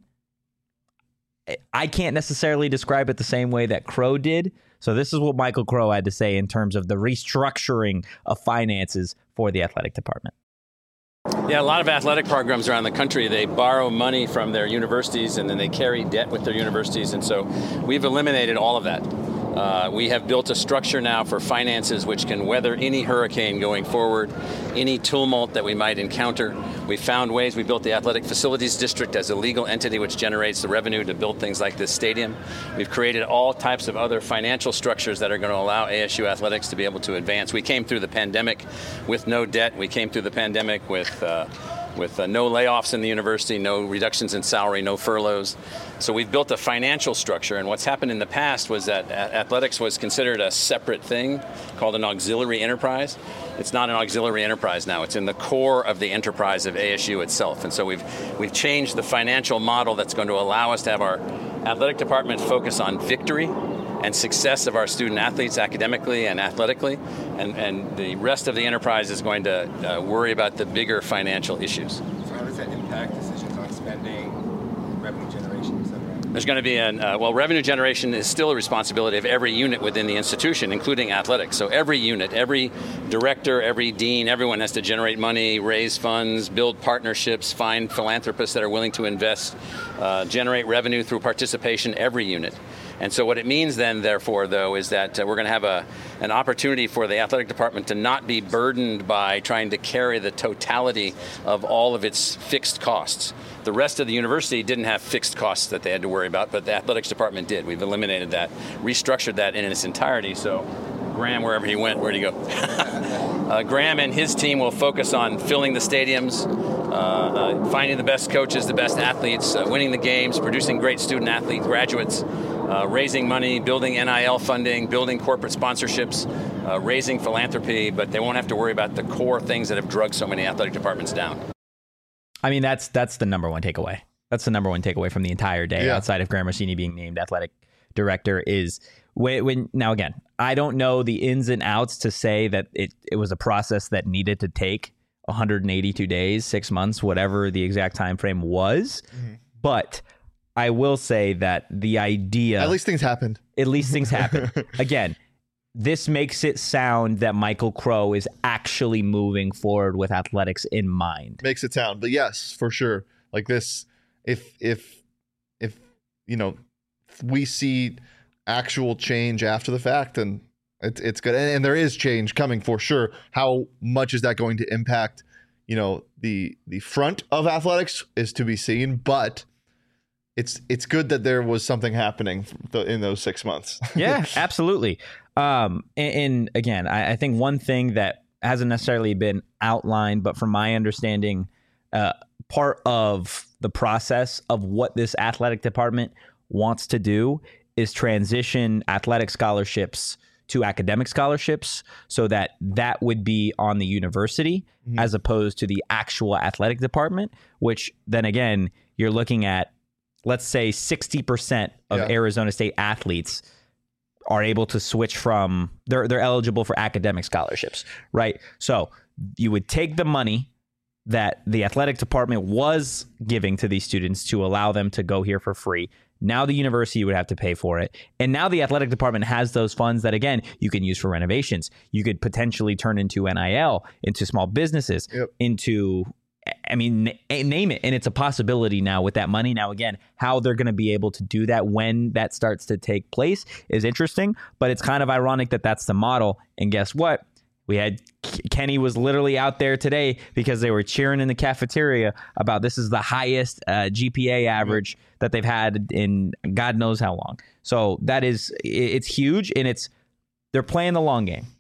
I can't necessarily describe it the same way that Crow did. So this is what Michael Crow had to say in terms of the restructuring of finances for the athletic department. Yeah, a lot of athletic programs around the country, they borrow money from their universities and then they carry debt with their universities. And so we've eliminated all of that. Uh, we have built a structure now for finances which can weather any hurricane going forward, any tumult that we might encounter. We found ways. We built the Athletic Facilities District as a legal entity which generates the revenue to build things like this stadium. We've created all types of other financial structures that are going to allow A S U athletics to be able to advance. We came through the pandemic with no debt. We came through the pandemic with uh, with uh, no layoffs in the university, no reductions in salary, no furloughs. So we've built a financial structure, and what's happened in the past was that athletics was considered a separate thing called an auxiliary enterprise. It's not an auxiliary enterprise now. It's in the core of the enterprise of A S U itself. And so we've we've changed the financial model that's going to allow us to have our athletic department focus on victory and success of our student athletes academically and athletically, and, and the rest of the enterprise is going to uh, worry about the bigger financial issues. So how does that impact decisions on spending, revenue generation, et cetera? There's going to be an, uh, well, revenue generation is still a responsibility of every unit within the institution, including athletics. So every unit, every director, every dean, everyone has to generate money, raise funds, build partnerships, find philanthropists that are willing to invest, uh, generate revenue through participation, every unit. And so what it means then, therefore, though, is that uh, we're going to have a an opportunity for the athletic department to not be burdened by trying to carry the totality of all of its fixed costs. The rest of the university didn't have fixed costs that they had to worry about, but the athletics department did. We've eliminated that, restructured that in its entirety. So Graham, wherever he went, where'd he go? uh, Graham and his team will focus on filling the stadiums, uh, uh, finding the best coaches, the best athletes, uh, winning the games, producing great student athlete graduates, Uh, raising money, building N I L funding, building corporate sponsorships, uh, raising philanthropy, but they won't have to worry about the core things that have drugged so many athletic departments down. I mean, that's that's the number one takeaway. That's the number one takeaway from the entire day, Yeah. outside of Graham Rossini being named athletic director, is when, when now again, I don't know the ins and outs to say that it, it was a process that needed to take one hundred eighty-two days, six months, whatever the exact time frame was, mm-hmm. but I will say that the idea... At least things happened. At least things happened. Again, this makes it sound that Michael Crow is actually moving forward with athletics in mind. Makes it sound. But yes, for sure. Like this, if, if, if, you know, we see actual change after the fact, then it's, it's good. And, and there is change coming for sure. How much is that going to impact, you know, the, the front of athletics is to be seen, but... It's it's good that there was something happening in those six months. Yeah, absolutely. Um, and, and again, I, I think one thing that hasn't necessarily been outlined, but from my understanding, uh, part of the process of what this athletic department wants to do is transition athletic scholarships to academic scholarships, so that that would be on the university mm-hmm. as opposed to the actual athletic department, which then again, you're looking at, let's say sixty percent of yeah. Arizona State athletes are able to switch from, they're they're eligible for academic scholarships, right? So you would take the money that the athletic department was giving to these students to allow them to go here for free. Now the university would have to pay for it. And now the athletic department has those funds that, again, you can use for renovations. You could potentially turn into N I L, into small businesses, yep. into... I mean, name it. And it's a possibility now with that money. Now, again, how they're going to be able to do that when that starts to take place is interesting, but it's kind of ironic that that's the model. And guess what? We had Kenny was literally out there today because they were cheering in the cafeteria about this is the highest uh, G P A average that they've had in God knows how long. So that is, it's huge, and it's, they're playing the long game.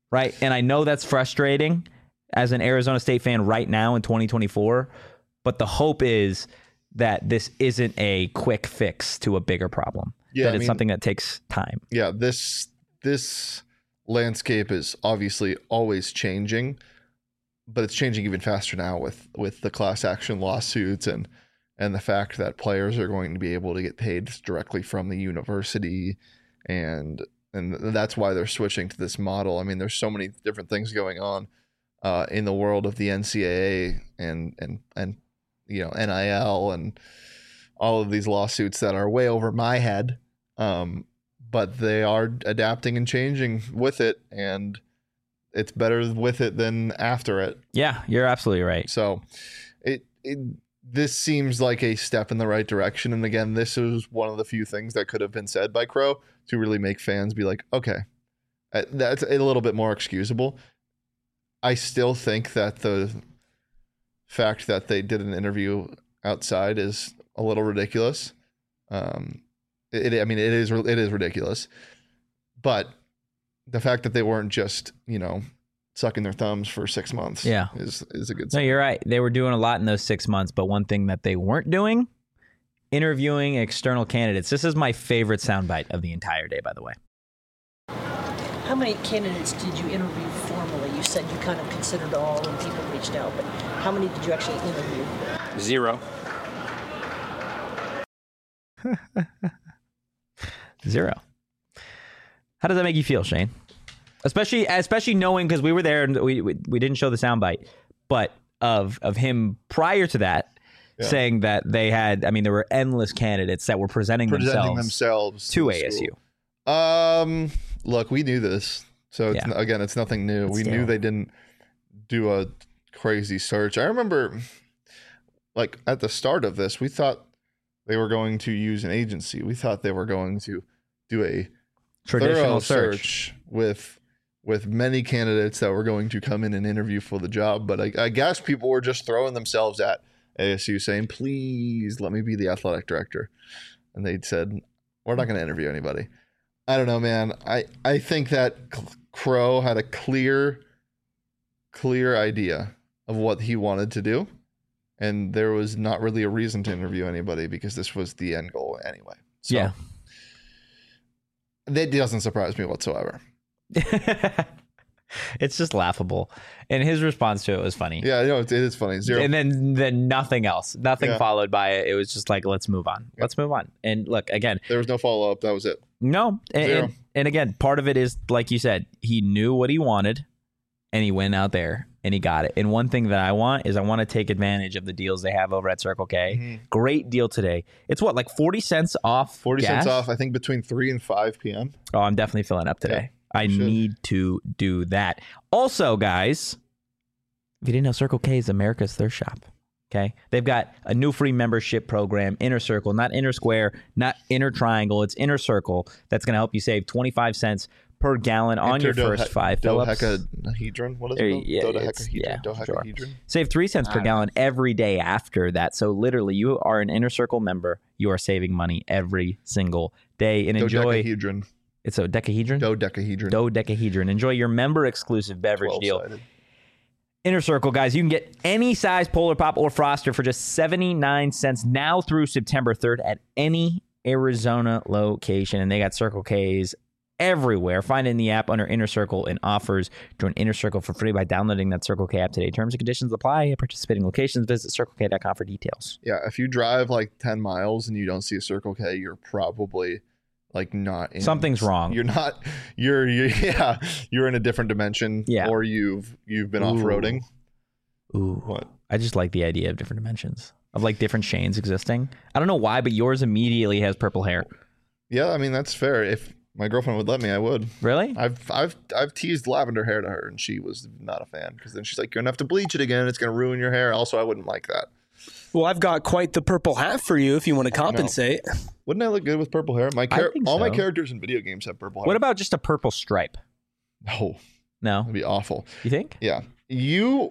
right? And I know that's frustrating as an Arizona State fan right now in twenty twenty-four, but the hope is that this isn't a quick fix to a bigger problem. Yeah, that I it's mean- something that takes time. Yeah, this this landscape is obviously always changing, but it's changing even faster now with with the class action lawsuits and and the fact that players are going to be able to get paid directly from the university, and and that's why they're switching to this model. I mean, there's so many different things going on uh, in the world of the N C double A and and and you know N I L and all of these lawsuits that are way over my head. Um, but they are adapting and changing with it, and it's better with it than after it. Yeah, you're absolutely right. So it, it this seems like a step in the right direction. And again, this is one of the few things that could have been said by Crow to really make fans be like, okay, uh, that's a little bit more excusable. I still think that the fact that they did an interview outside is a little ridiculous. Um, it, I mean, it is it is ridiculous, but the fact that they weren't just, you know, sucking their thumbs for six months, Yeah. is is a good No, sign. you're right. They were doing a lot in those six months, but one thing that they weren't doing, interviewing external candidates. This is my favorite soundbite of the entire day, by the way. How many candidates did you interview formally? You said you kind of considered all and people reached out, but how many did you actually interview? Zero. Zero. How does that make you feel, Shane? Especially, especially knowing, because we were there and we, we we didn't show the soundbite, but of of him prior to that Yeah. saying that they had. I mean, there were endless candidates that were presenting, Presenting themselves, themselves to the A S U. school. Um, look, we knew this, so it's, Yeah. again, it's nothing new. But we still. knew they didn't do a crazy search. I remember, like at the start of this, we thought they were going to use an agency. We thought they were going to do a Traditional thorough search. search with with many candidates that were going to come in and interview for the job. But I, I guess people were just throwing themselves at A S U saying, please let me be the athletic director. And they said, we're not going to interview anybody. I don't know, man. I, I think that Crow had a clear, clear idea of what he wanted to do. And there was not really a reason to interview anybody because this was the end goal anyway. So Yeah. that doesn't surprise me whatsoever. It's just laughable, and his response to it was funny. Yeah, you know, it, it is funny. Zero. And then then nothing else, nothing Yeah. followed by it. It was just like, let's move on. Yeah. Let's move on. And look, again, There was no follow up. That was it. no, and, Zero. and and again, part of it is like you said, he knew what he wanted, and he went out there and he got it. And one thing that I want is I want to take advantage of the deals they have over at Circle K. Mhm. Great deal today. It's what, like forty cents off. Forty gas? cents off. I think between three and five p.m. Oh, I'm definitely filling up today. I you should. need to do that. Also, guys, if you didn't know, Circle K is America's thirst shop. Okay, they've got a new free membership program, Inner Circle, not Inner Square, not Inner Triangle. It's Inner Circle. That's going to help you save twenty-five cents per gallon on your Interdode- first five fill-ups. Dodecahedron. What is There- it? yeah, called? it's- Dodecahedron. yeah, sure. Dodecahedron. Save three cents per gallon every day after that. So literally, you are an Inner Circle member. You are saving money every single day. And enjoy. Dodecahedron. It's a decahedron. Dodecahedron. Dodecahedron. Enjoy your member exclusive beverage deal. twelve-sided. Inner Circle, guys, you can get any size Polar Pop or Froster for just seventy-nine cents now through September third at any Arizona location. And they got Circle K's everywhere. Find it in the app under Inner Circle and offers. Join Inner Circle for free by downloading that Circle K app today. Terms and conditions apply at participating locations. Visit circle k dot com for details. Yeah, if you drive like ten miles and you don't see a Circle K, you're probably like not in Something's wrong. You're not you're, you're yeah, you're in a different dimension. Yeah. Or you've you've been Ooh. off-roading. Ooh. What? I just like the idea of different dimensions, of like different Shanes existing. I don't know why, but yours immediately has purple hair. Yeah, I mean that's fair. If my girlfriend would let me, I would. Really? I've I've I've teased lavender hair to her and she was not a fan because then she's like, you're gonna have to bleach it again. It's gonna ruin your hair. Also, I wouldn't like that. Well, I've got quite the purple hat for you if you want to compensate. Wouldn't I look good with purple hair? My char- think all my so. characters in video games have purple hair. What about just a purple stripe? No, No? that'd be awful. You think? Yeah, you.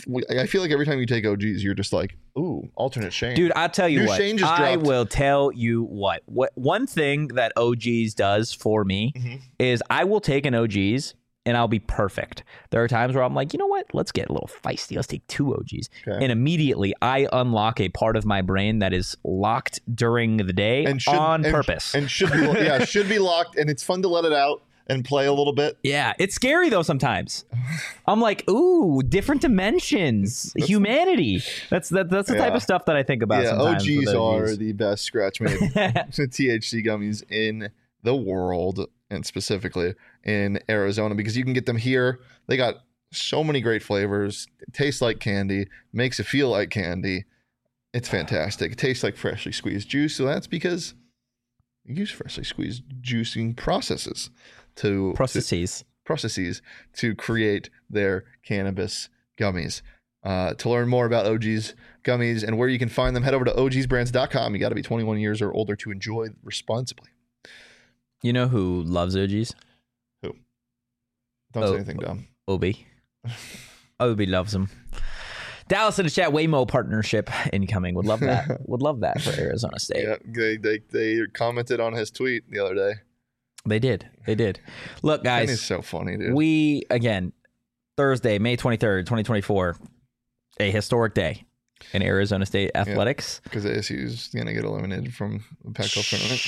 I feel like every time you take O Gs, you're just like, ooh, alternate Shane. Dude, I'll tell you New what. Shane just I dropped. will tell you what. What one thing that O Gs does for me Mhm. is I will take an O Gs and I'll be perfect. There are times where I'm like, you know what? Let's get a little feisty. Let's take two O Gs. Okay. And immediately I unlock a part of my brain that is locked during the day and should, on and, purpose. And should be yeah, should be locked, and it's fun to let it out and play a little bit. Yeah, it's scary though sometimes. I'm like, ooh, different dimensions, humanity. That's that, that's the Yeah. type of stuff that I think about Yeah, sometimes. O Gs with are the best scratch made T H C gummies in the world, and specifically in Arizona, because you can get them here. They got so many great flavors. It tastes like candy, makes it feel like candy. It's fantastic. It tastes like freshly squeezed juice, so that's because you use freshly squeezed juicing processes to processes to, processes to create their cannabis gummies. Uh, to learn more about O G's gummies and where you can find them, head over to O Gs brands dot com. You got to be twenty-one years or older to enjoy responsibly. You know who loves O Gs? Who? Don't Oh, say anything dumb. Obi. Obi loves them. Dallas in the chat, Waymo partnership incoming. Would love that. Would love that for Arizona State. Yeah, they, they they commented on his tweet the other day. They did. They did. Look, guys. It's so funny, dude. We, again, Thursday, May twenty-third, twenty twenty-four, a historic day in Arizona State athletics. Because A S U's going to get eliminated from the Pac twelve tournament.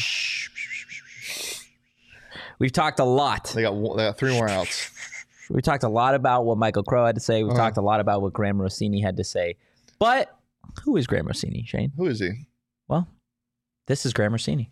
We've talked a lot. They got one, they got three more outs. We talked a lot about what Michael Crow had to say. We've Uh-huh. talked a lot about what Graham Rossini had to say. But who is Graham Rossini, Shane? Who is he? Well, this is Graham Rossini.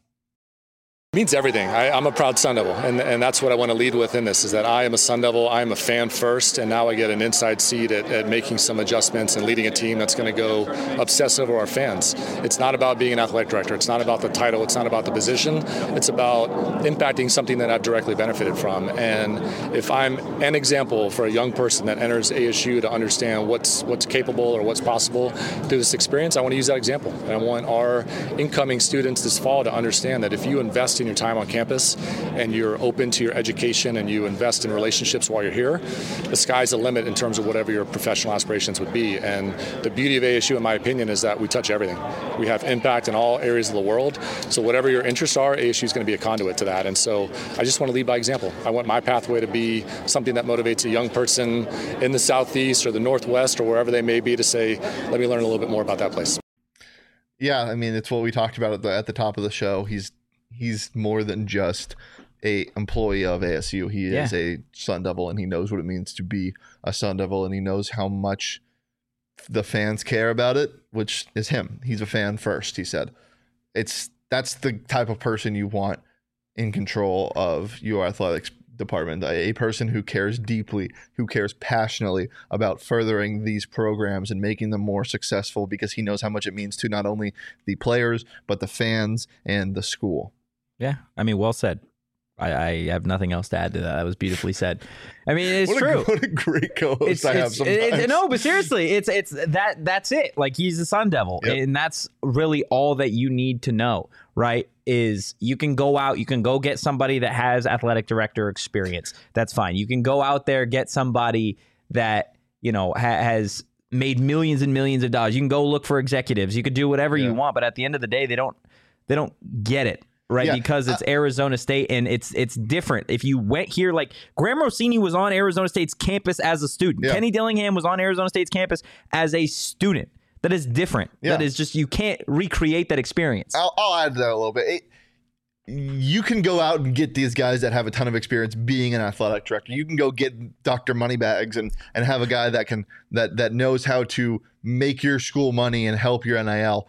It means everything. I, I'm a proud Sun Devil, and, and that's what I want to lead with in this, is that I am a Sun Devil, I am a fan first, and now I get an inside seat at, at making some adjustments and leading a team that's going to go obsess over our fans. It's not about being an athletic director. It's not about the title. It's not about the position. It's about impacting something that I've directly benefited from. And if I'm an example for a young person that enters A S U to understand what's what's capable or what's possible through this experience, I want to use that example. And I want our incoming students this fall to understand that if you invest in your time on campus and you're open to your education and you invest in relationships while you're here, the sky's the limit in terms of whatever your professional aspirations would be. And the beauty of A S U, in my opinion, is that we touch everything. We have impact in all areas of the world. So whatever your interests are, A S U is going to be a conduit to that. And so I just want to lead by example. I want my pathway to be something that motivates a young person in the Southeast or the Northwest or wherever they may be to say, let me learn a little bit more about that place. Yeah, I mean, it's what we talked about at the, at the top of the show. He's he's more than just a employee of A S U. He Yeah. is a Sun Devil, and he knows what it means to be a Sun Devil, and he knows how much the fans care about it, which is him. He's a fan first, he said. It's that's the type of person you want in control of your athletics department, a, a person who cares deeply, who cares passionately about furthering these programs and making them more successful, because he knows how much it means to not only the players, but the fans and the school. Yeah, I mean, well said. I, I have nothing else to add to that. That was beautifully said. I mean, it's what true. A, what a great co-host It's, I have it's, sometimes. it, no, but seriously, it's it's that that's it. Like, he's a Sun Devil, Yep. and that's really all that you need to know, right? Is you can go out, you can go get somebody that has athletic director experience. That's fine. You can go out there, get somebody that, you know, ha- has made millions and millions of dollars. You can go look for executives. You could do whatever Yeah. you want, but at the end of the day, they don't they don't get it. Right, Yeah, because it's Arizona State, and it's it's different. If you went here, like Graham Rossini was on Arizona State's campus as a student. Yeah. Kenny Dillingham was on Arizona State's campus as a student. That is different. Yeah. That is just, you can't recreate that experience. I'll, I'll add to that a little bit. It, you can go out and get these guys that have a ton of experience being an athletic director. You can go get Doctor Moneybags and and have a guy that can that that knows how to make your school money and help your N I L.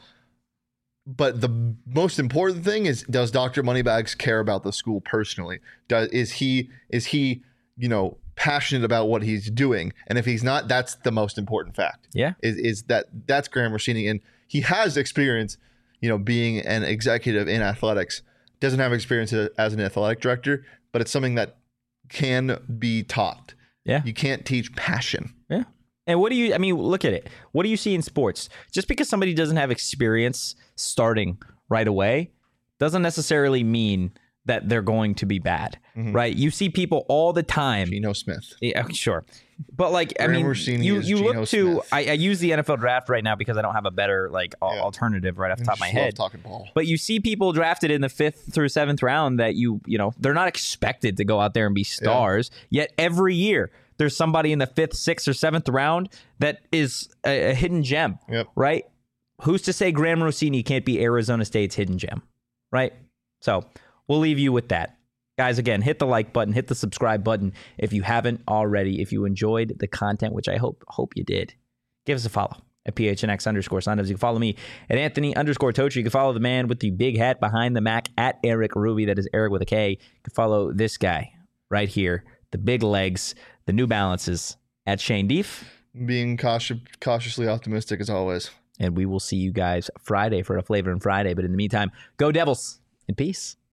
But the most important thing is, does Doctor Moneybags care about the school personally? Does is he is he you know passionate about what he's doing? And if he's not, that's the most important fact. Yeah. Is is that that's Graham Rossini, and he has experience, you know, being an executive in athletics. Doesn't have experience as an athletic director, but it's something that can be taught. Yeah. You can't teach passion. Yeah. And what do you, I mean, look at it. What do you see in sports? Just because somebody doesn't have experience starting right away doesn't necessarily mean that they're going to be bad, Mhm. right? You see people all the time. Geno Smith. Yeah, sure. But like, I Graham mean, Rossini you, is you Geno look to, Smith. I, I use the N F L draft right now because I don't have a better like al- Yeah. alternative right off the top of my Just love head. talking ball. But you see people drafted in the fifth through seventh round that you, you know, they're not expected to go out there and be stars. Yet every year there's somebody in the fifth, sixth, or seventh round that is a, a hidden gem, Yep. right? Who's to say Graham Rossini can't be Arizona State's hidden gem, right? So we'll leave you with that. Guys, again, hit the like button, hit the subscribe button if you haven't already. If you enjoyed the content, which I hope hope you did, give us a follow at P H N X underscore Sundays. You can follow me at Anthony underscore Totri. You can follow the man with the big hat behind the Mac at Eric Ruby. That is Eric with a K. You can follow this guy right here, the big legs, the New Balances at Shane Deef. Being cautious, cautiously optimistic as always. And we will see you guys Friday for a Flavor and Friday. But in the meantime, go Devils and peace.